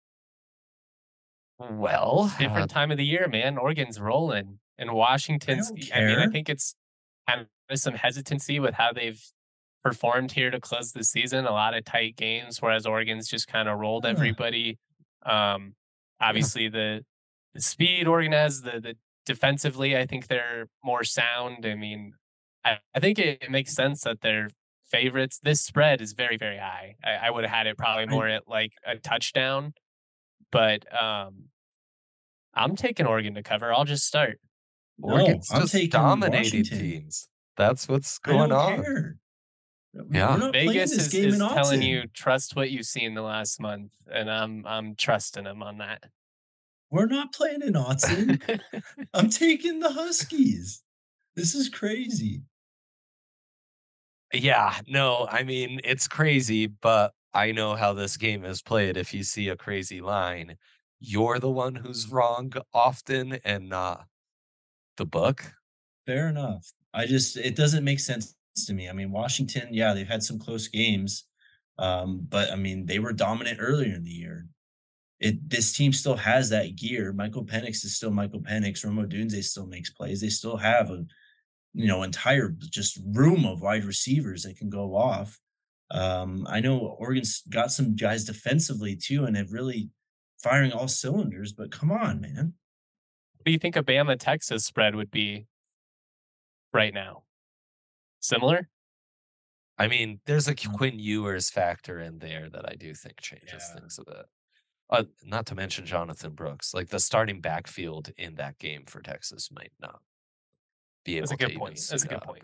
Well, different time of the year, man. Oregon's rolling, and Washington's. I think it's kind of some hesitancy with how they've performed here to close the season. A lot of tight games, whereas Oregon's just kind of rolled everybody. Obviously, the speed Oregon has, the defensively, I think they're more sound. I mean, I think it makes sense that they're favorites. This spread is very, very high. I would have had it probably more at like a touchdown, but I'm taking Oregon to cover. I'll just start. Oregon's just dominating teams. That's what's going on. Care. Yeah, Vegas is telling you trust what you see in the last month, and I'm trusting them on that. We're not playing in Autzen. I'm taking the Huskies. This is crazy. Yeah, no, I mean, it's crazy, but I know how this game is played. If you see a crazy line, you're the one who's wrong often and not the book. Fair enough. It doesn't make sense to me. I mean, Washington, yeah, they've had some close games, but I mean, they were dominant earlier in the year. This team still has that gear. Michael Penix is still Michael Penix. Rome Odunze still makes plays. They still have a entire just room of wide receivers that can go off. I know Oregon's got some guys defensively too, and have really firing all cylinders. But come on, man. What do you think a Bama Texas spread would be right now? Similar? I mean, there's a Quinn Ewers factor in there that I do think changes Yeah. things a bit. Not to mention Jonathan Brooks. Like the starting backfield in that game for Texas might not be That's a able to good even point. That's suit a good up. point.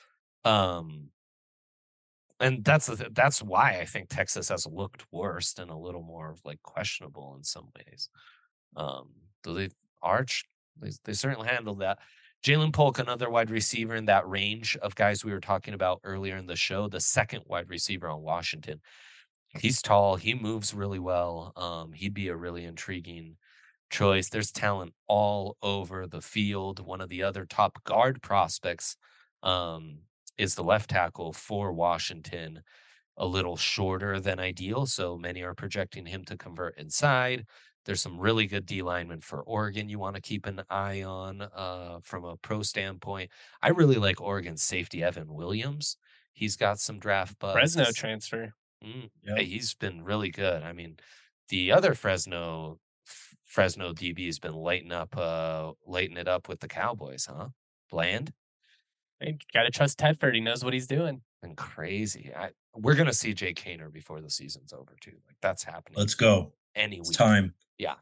And that's why I think Texas has looked worse and a little more like questionable in some ways. Though they certainly handled that. Jalen Polk, another wide receiver in that range of guys we were talking about earlier in the show, the second wide receiver on Washington. He's tall. He moves really well. He'd be a really intriguing choice. There's talent all over the field. One of the other top guard prospects is the left tackle for Washington, a little shorter than ideal. So many are projecting him to convert inside. There's some really good D linemen for Oregon you want to keep an eye on from a pro standpoint. I really like Oregon's safety, Evan Williams. He's got some draft buzz. Fresno transfer. Yep. Hey, he's been really good. I mean, the other Fresno DB has been lighting it up with the Cowboys, huh? Bland Hey, got to trust Tedford. He knows what he's doing. and crazy. We're gonna see Jake Hainer before the season's over too. Like that's happening. Let's go. Any It's week. time. Yeah.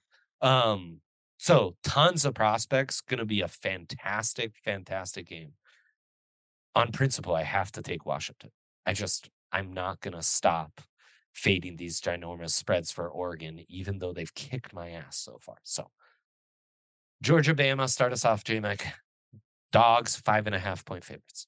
So tons of prospects. Gonna be a fantastic game. On principle, I have to take Washington. I'm not gonna stop fading these ginormous spreads for Oregon, even though they've kicked my ass so far. So Georgia, Bama, start us off, J-Mac. Dogs, 5.5 point favorites.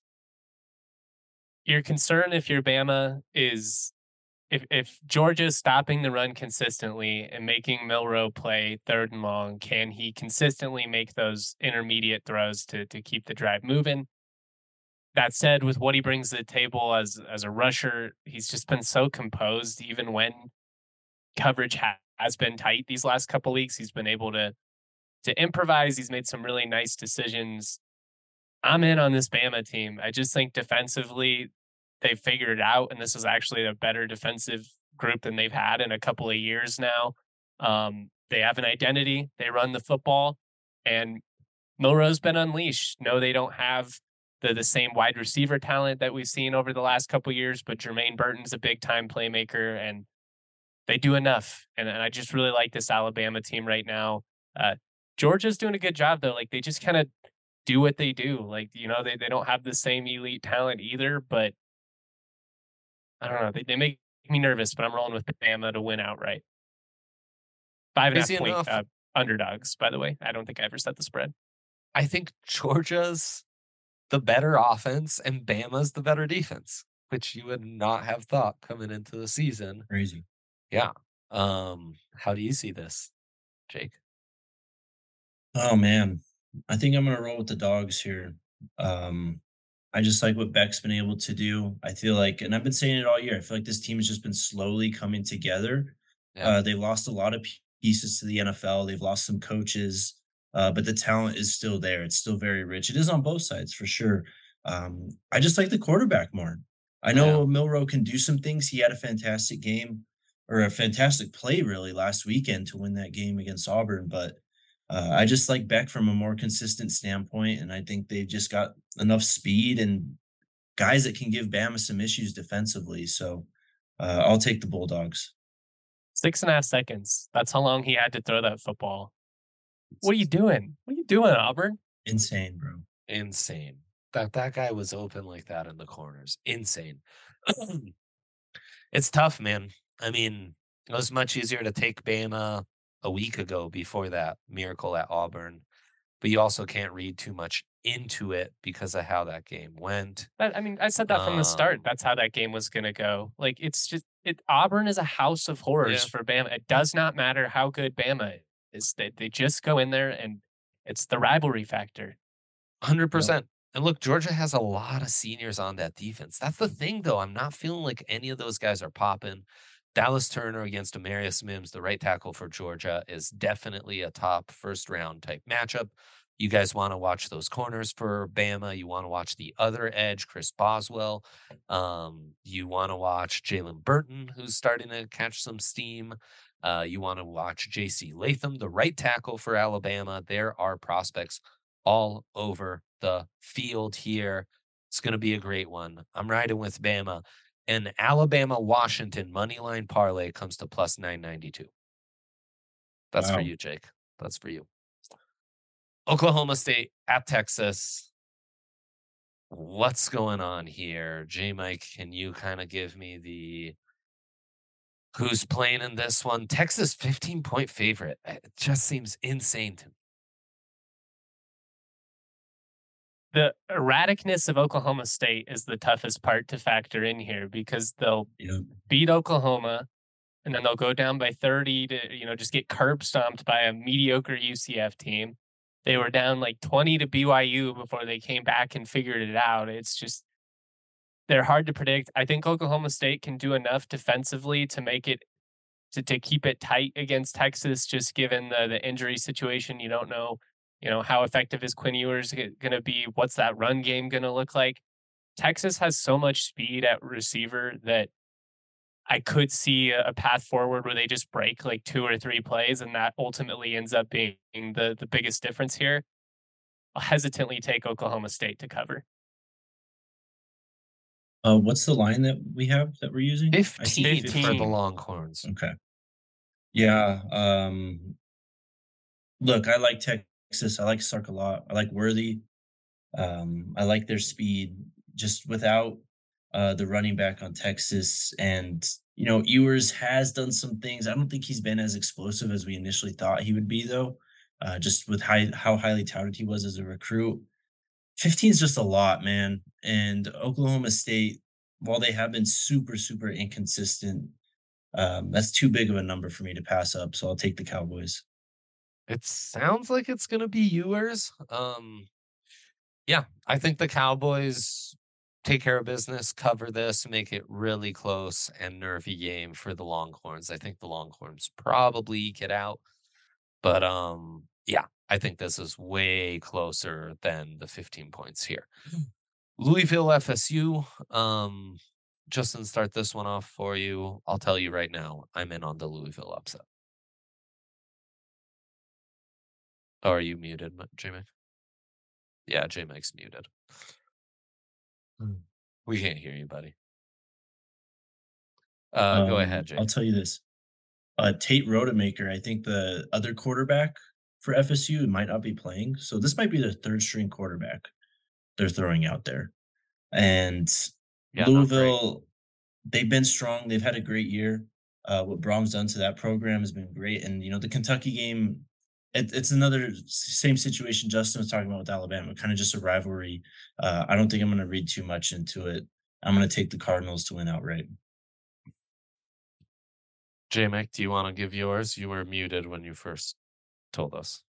Your concern if you're Bama is if Georgia's stopping the run consistently and making Milroe play third and long, can he consistently make those intermediate throws to keep the drive moving? That said, with what he brings to the table as a rusher, he's just been so composed. Even when coverage has been tight these last couple weeks, he's been able to improvise. He's made some really nice decisions. I'm in on this Bama team. I just think defensively, they figured it out, and this is actually a better defensive group than they've had in a couple of years now. They have an identity. They run the football, and Milroe's been unleashed. No, they don't have the same wide receiver talent that we've seen over the last couple of years, but Jermaine Burton's a big-time playmaker, and they do enough. And I just really like this Alabama team right now. Georgia's doing a good job, though. Like, they just kind of do what they do. Like, they don't have the same elite talent either, but I don't know. They make me nervous, but I'm rolling with Bama to win outright. 5.5 point underdogs, by the way. I don't think I ever set the spread. I think Georgia's the better offense and Bama's the better defense, which you would not have thought coming into the season. Crazy. Yeah. How do you see this, Jake? Oh man. I think I'm gonna roll with the dogs here. I just like what Beck's been able to do. I feel like, and I've been saying it all year, I feel like this team has just been slowly coming together. Yeah. They've lost a lot of pieces to the NFL. They've lost some coaches, but the talent is still there. It's still very rich. It is on both sides for sure. I just like the quarterback more. I know Milroe can do some things. He had a fantastic game or a fantastic play really last weekend to win that game against Auburn, but I just like Beck from a more consistent standpoint, and I think they've just got enough speed and guys that can give Bama some issues defensively. So I'll take the Bulldogs. 6.5 seconds. That's how long he had to throw that football. What are you doing? What are you doing, Auburn? Insane, bro. Insane. That guy was open like that in the corners. Insane. It's tough, man. I mean, it was much easier to take Bama a week ago before that miracle at Auburn, but you also can't read too much into it because of how that game went. I said that from the start. That's how that game was going to go. Like, it's just Auburn is a house of horrors for Bama. It does not matter how good Bama is. They just go in there, and it's the rivalry factor. 100%. And look, Georgia has a lot of seniors on that defense. That's the thing, though. I'm not feeling like any of those guys are popping. Dallas Turner against Amarius Mims, the right tackle for Georgia, is definitely a top first-round type matchup. You guys want to watch those corners for Bama. You want to watch the other edge, Chris Boswell. You want to watch Jalen Burton, who's starting to catch some steam. You want to watch J.C. Latham, the right tackle for Alabama. There are prospects all over the field here. It's going to be a great one. I'm riding with Bama. And Alabama-Washington moneyline parlay comes to plus 992. That's for Wow. you, Jake. That's for you. Oklahoma State at Texas. What's going on here? J-Mike, can you kind of give me the who's playing in this one? Texas 15-point favorite. It just seems insane to me. The erraticness of Oklahoma State is the toughest part to factor in here because they'll beat Oklahoma and then they'll go down by 30 to, just get curb stomped by a mediocre UCF team. They were down like 20 to BYU before they came back and figured it out. It's just, they're hard to predict. I think Oklahoma State can do enough defensively to make it, to keep it tight against Texas, just given the injury situation. You don't know, how effective is Quinn Ewers going to be? What's that run game going to look like? Texas has so much speed at receiver that I could see a path forward where they just break like 2 or 3 plays, and that ultimately ends up being the biggest difference here. I'll hesitantly take Oklahoma State to cover. What's the line that we have that we're using? 15 for the Longhorns. Okay. Yeah. Look, I like Texas. I like Sark a lot. I like Worthy. I like their speed. Just without the running back on Texas, and Ewers has done some things. I don't think he's been as explosive as we initially thought he would be, though. Just with how highly touted he was as a recruit. 15 is just a lot, man. And Oklahoma State, while they have been super, super inconsistent, that's too big of a number for me to pass up. So I'll take the Cowboys. It sounds like it's going to be Ewers. Yeah, I think the Cowboys take care of business, cover this, make it really close and nervy game for the Longhorns. I think the Longhorns probably get out. But yeah, I think this is way closer than the 15 points here. Louisville FSU. Justin, start this one off for you. I'll tell you right now, I'm in on the Louisville upset. Oh, are you muted, J-Mike? Yeah, J-Mike's muted. We can't hear you, buddy. Go ahead, Jake. I'll tell you this. Tate Rodemaker, I think the other quarterback for FSU might not be playing. So this might be their third string quarterback they're throwing out there. And Louisville, they've been strong. They've had a great year. What Brom's done to that program has been great. And, the Kentucky game, it's another same situation Justin was talking about with Alabama, kind of just a rivalry. I don't think I'm going to read too much into it. I'm going to take the Cardinals to win outright. J-Mac, do you want to give yours? You were muted when you first told us.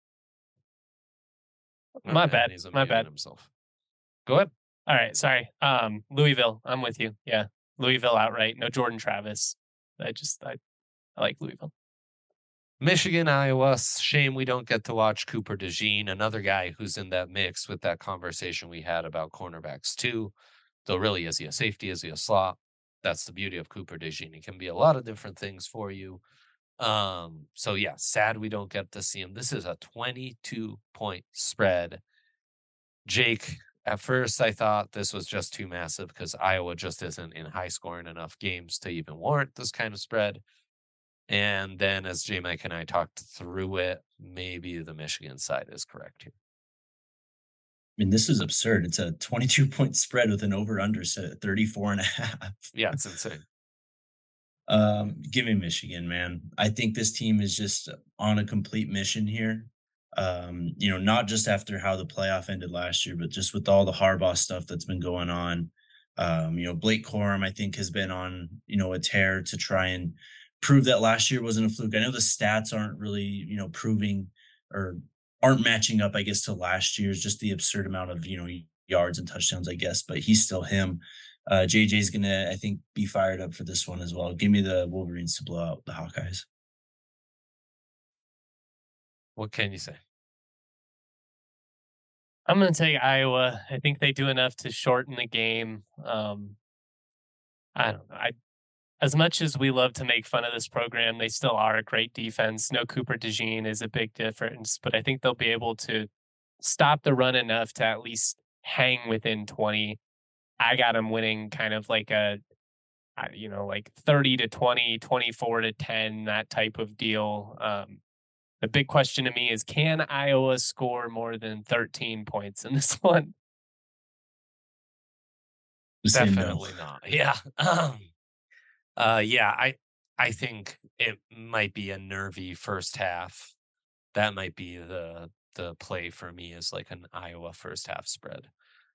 My bad. My bad. Himself. Go ahead. All right. Sorry. Louisville. I'm with you. Yeah. Louisville outright. No Jordan Travis. I like Louisville. Michigan, Iowa. Shame we don't get to watch Cooper DeJean, another guy who's in that mix with that conversation we had about cornerbacks too. Though really, is he a safety? Is he a slot? That's the beauty of Cooper DeJean. He can be a lot of different things for you. So yeah, sad we don't get to see him. This is a 22-point spread. Jake, at first I thought this was just too massive because Iowa just isn't in high scoring enough games to even warrant this kind of spread. And then as J Mike and I talked through it, maybe the Michigan side is correct here. I mean, this is absurd. It's a 22-point spread with an over-under set at 34.5. Yeah, it's insane. Give me Michigan, man. I think this team is just on a complete mission here. Not just after how the playoff ended last year, but just with all the Harbaugh stuff that's been going on. Blake Corum, I think, has been on, a tear to try and prove that last year wasn't a fluke. I know the stats aren't really, proving or aren't matching up, I guess, to last year's, just the absurd amount of, yards and touchdowns, I guess, but he's still him. JJ's going to, I think, be fired up for this one as well. Give me the Wolverines to blow out the Hawkeyes. What can you say? I'm going to take Iowa. I think they do enough to shorten the game. I don't know. As much as we love to make fun of this program, they still are a great defense. No Cooper DeJean is a big difference, but I think they'll be able to stop the run enough to at least hang within 20. I got them winning kind of like like 30-20, 24-10, that type of deal. The big question to me is, can Iowa score more than 13 points in this one? Just say no. Definitely not. Yeah. Yeah, I think it might be a nervy first half. That might be the play for me, is like an Iowa first half spread.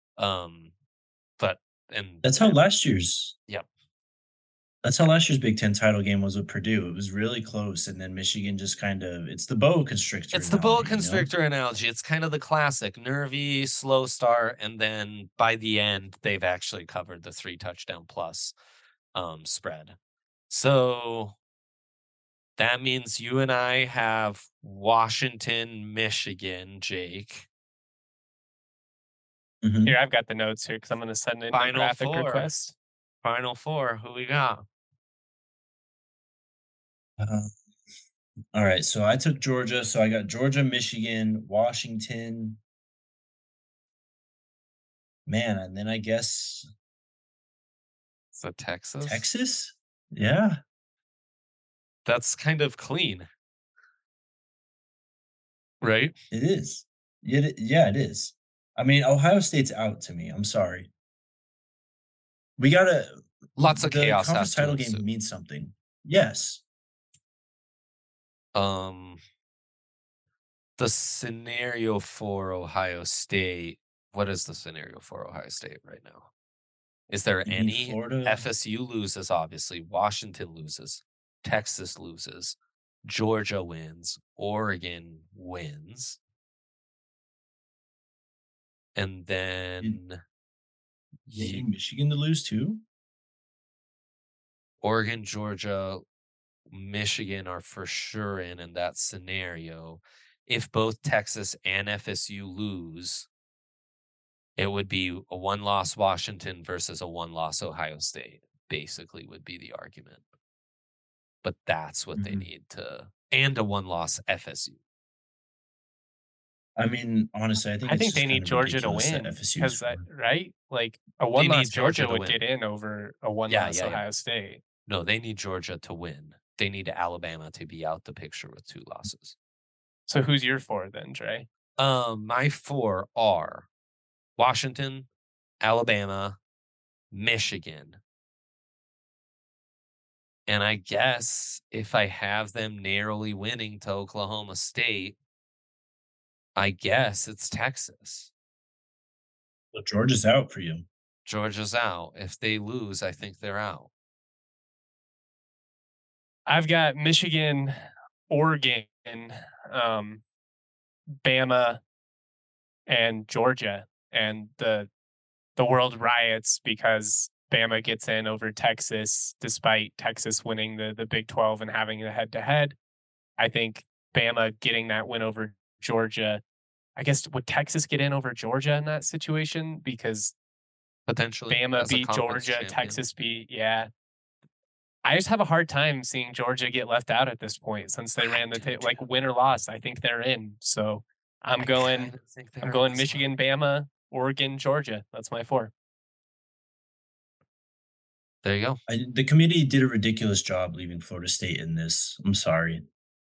But and That's how last year's Yep. That's how last year's Big Ten title game was with Purdue. It was really close, and then Michigan just kind of, it's the boa constrictor. It's the boa analogy, you know? constrictor analogy. It's kind of the classic nervy, slow start, and then by the end, they've actually covered the 3 touchdown plus spread. So that means you and I have Washington, Michigan, Jake. Mhm. Here, I've got the notes here because I'm going to send in a Final graphic four. request. Final 4. Who we got? All right, so I took Georgia. So I got Georgia, Michigan, Washington. Man, and then I guess So Texas. Texas? Yeah. That's kind of clean. Right? It is. Yeah, it is. I mean, Ohio State's out to me. I'm sorry. We gotta. Lots of the chaos conference has to title game ensue. means something. Yes. The scenario for Ohio State. What is the scenario for Ohio State right now? Is there You mean any? Florida? FSU loses, obviously. Washington loses. Texas loses. Georgia wins. Oregon wins. And then You need Michigan to lose too? Oregon, Georgia, Michigan are for sure in that scenario. If both Texas and FSU lose, it would be a 1-loss Washington versus a 1-loss Ohio State, basically, would be the argument. But that's what they need to, and a 1-loss FSU. I mean, honestly, I think I it's think just they need kind of Georgia to ridiculous that win FSU is because, four. right? Like a They one-loss need Georgia Georgia to would win. get in over a one-loss Ohio State. No, they need Georgia to win. They need Alabama to be out the picture with 2 losses. So who's your 4 then, Dre? My 4 are Washington, Alabama, Michigan. And I guess if I have them narrowly winning to Oklahoma State, I guess it's Texas. So Georgia's out for you. Georgia's out. If they lose, I think they're out. I've got Michigan, Oregon, Bama, and Georgia, and the world riots because Bama gets in over Texas, despite Texas winning the Big 12 and having a head-to-head. I think Bama getting that win over Georgia. I guess, would Texas get in over Georgia in that situation? Because potentially Bama beat Georgia, champion. Texas beat, yeah. I just have a hard time seeing Georgia get left out at this point since they ran the like win or loss. I think they're in. So I'm going Michigan, Bama, Oregon, Georgia. That's my 4. There you go. The committee did a ridiculous job leaving Florida State in this. I'm sorry.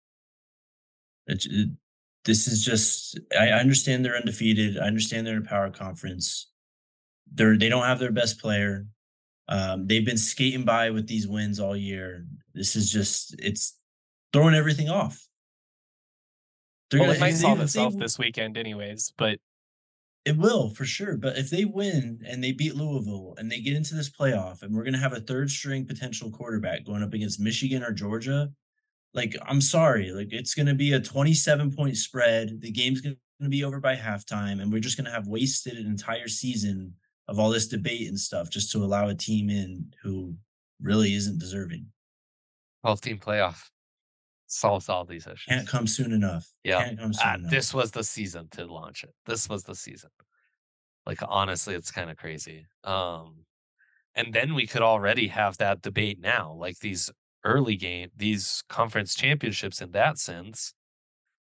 This is just, I understand they're undefeated. I understand they're in a power conference. They don't have their best player. They've been skating by with these wins all year. This is just, it's throwing everything off. It might solve itself this weekend anyways, but it will for sure. But if they win and they beat Louisville and they get into this playoff and we're going to have a 3rd string potential quarterback going up against Michigan or Georgia, like, I'm sorry, like, it's going to be a 27-point spread. The game's going to be over by halftime, and we're just going to have wasted an entire season of all this debate and stuff just to allow a team in who really isn't deserving. 12-team playoff solves all these issues. Can't come soon enough. Yeah. Can't come soon enough. This was the season to launch it. This was the season. Like, honestly, it's kind of crazy. And then we could already have that debate now. Like, these these conference championships in that sense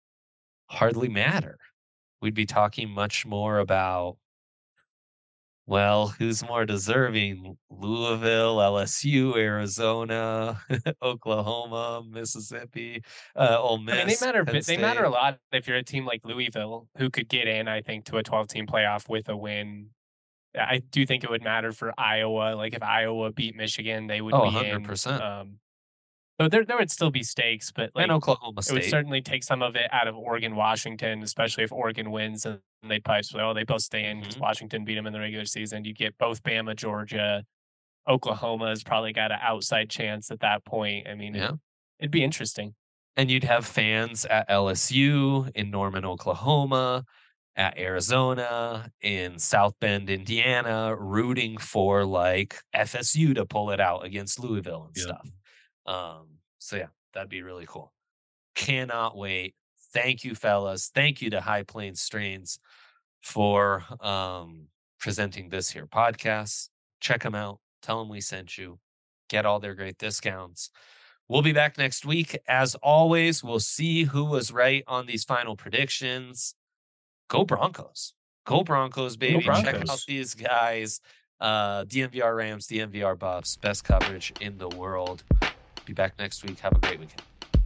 hardly matter. We'd be talking much more about Well, who's more deserving? Louisville, LSU, Arizona, Oklahoma, Mississippi, Ole I mean, they Miss, matter, Penn they matter a State. lot if you're a team like Louisville, who could get in, I think, to a 12-team playoff with a win. I do think it would matter for Iowa. Like if Iowa beat Michigan, they would Oh, be in. 100%. So there would still be stakes, but And like Oklahoma it would State. certainly take some of it out of Oregon, Washington, especially if Oregon wins and they'd probably say, oh, they both stay in because Mhm. Washington beat them in the regular season. You get both Bama, Georgia, Oklahoma has probably got an outside chance at that point. I mean, Yeah. it'd be interesting. And you'd have fans at LSU, in Norman, Oklahoma, at Arizona, in South Bend, Indiana, rooting for like FSU to pull it out against Louisville and Yep. stuff. So yeah, that'd be really cool. Cannot wait. Thank you, fellas. Thank you to High Plains Strains for presenting this here podcast. Check them out. Tell them we sent you. Get all their great discounts. We'll be back next week. As always, we'll see who was right on these final predictions. Go Broncos. Go Broncos, baby. Check out Broncos. these guys. DMVR Rams, DMVR Buffs. Best coverage in the world. Be back next week. Have a great weekend.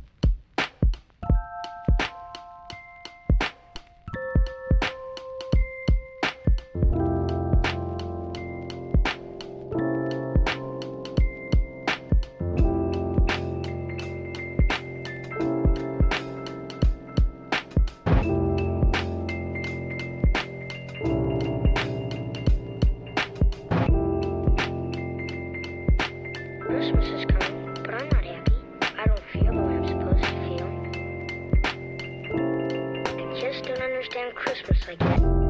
Christmas is coming, but I'm not happy. I don't feel the way I'm supposed to feel. I just don't understand Christmas like that.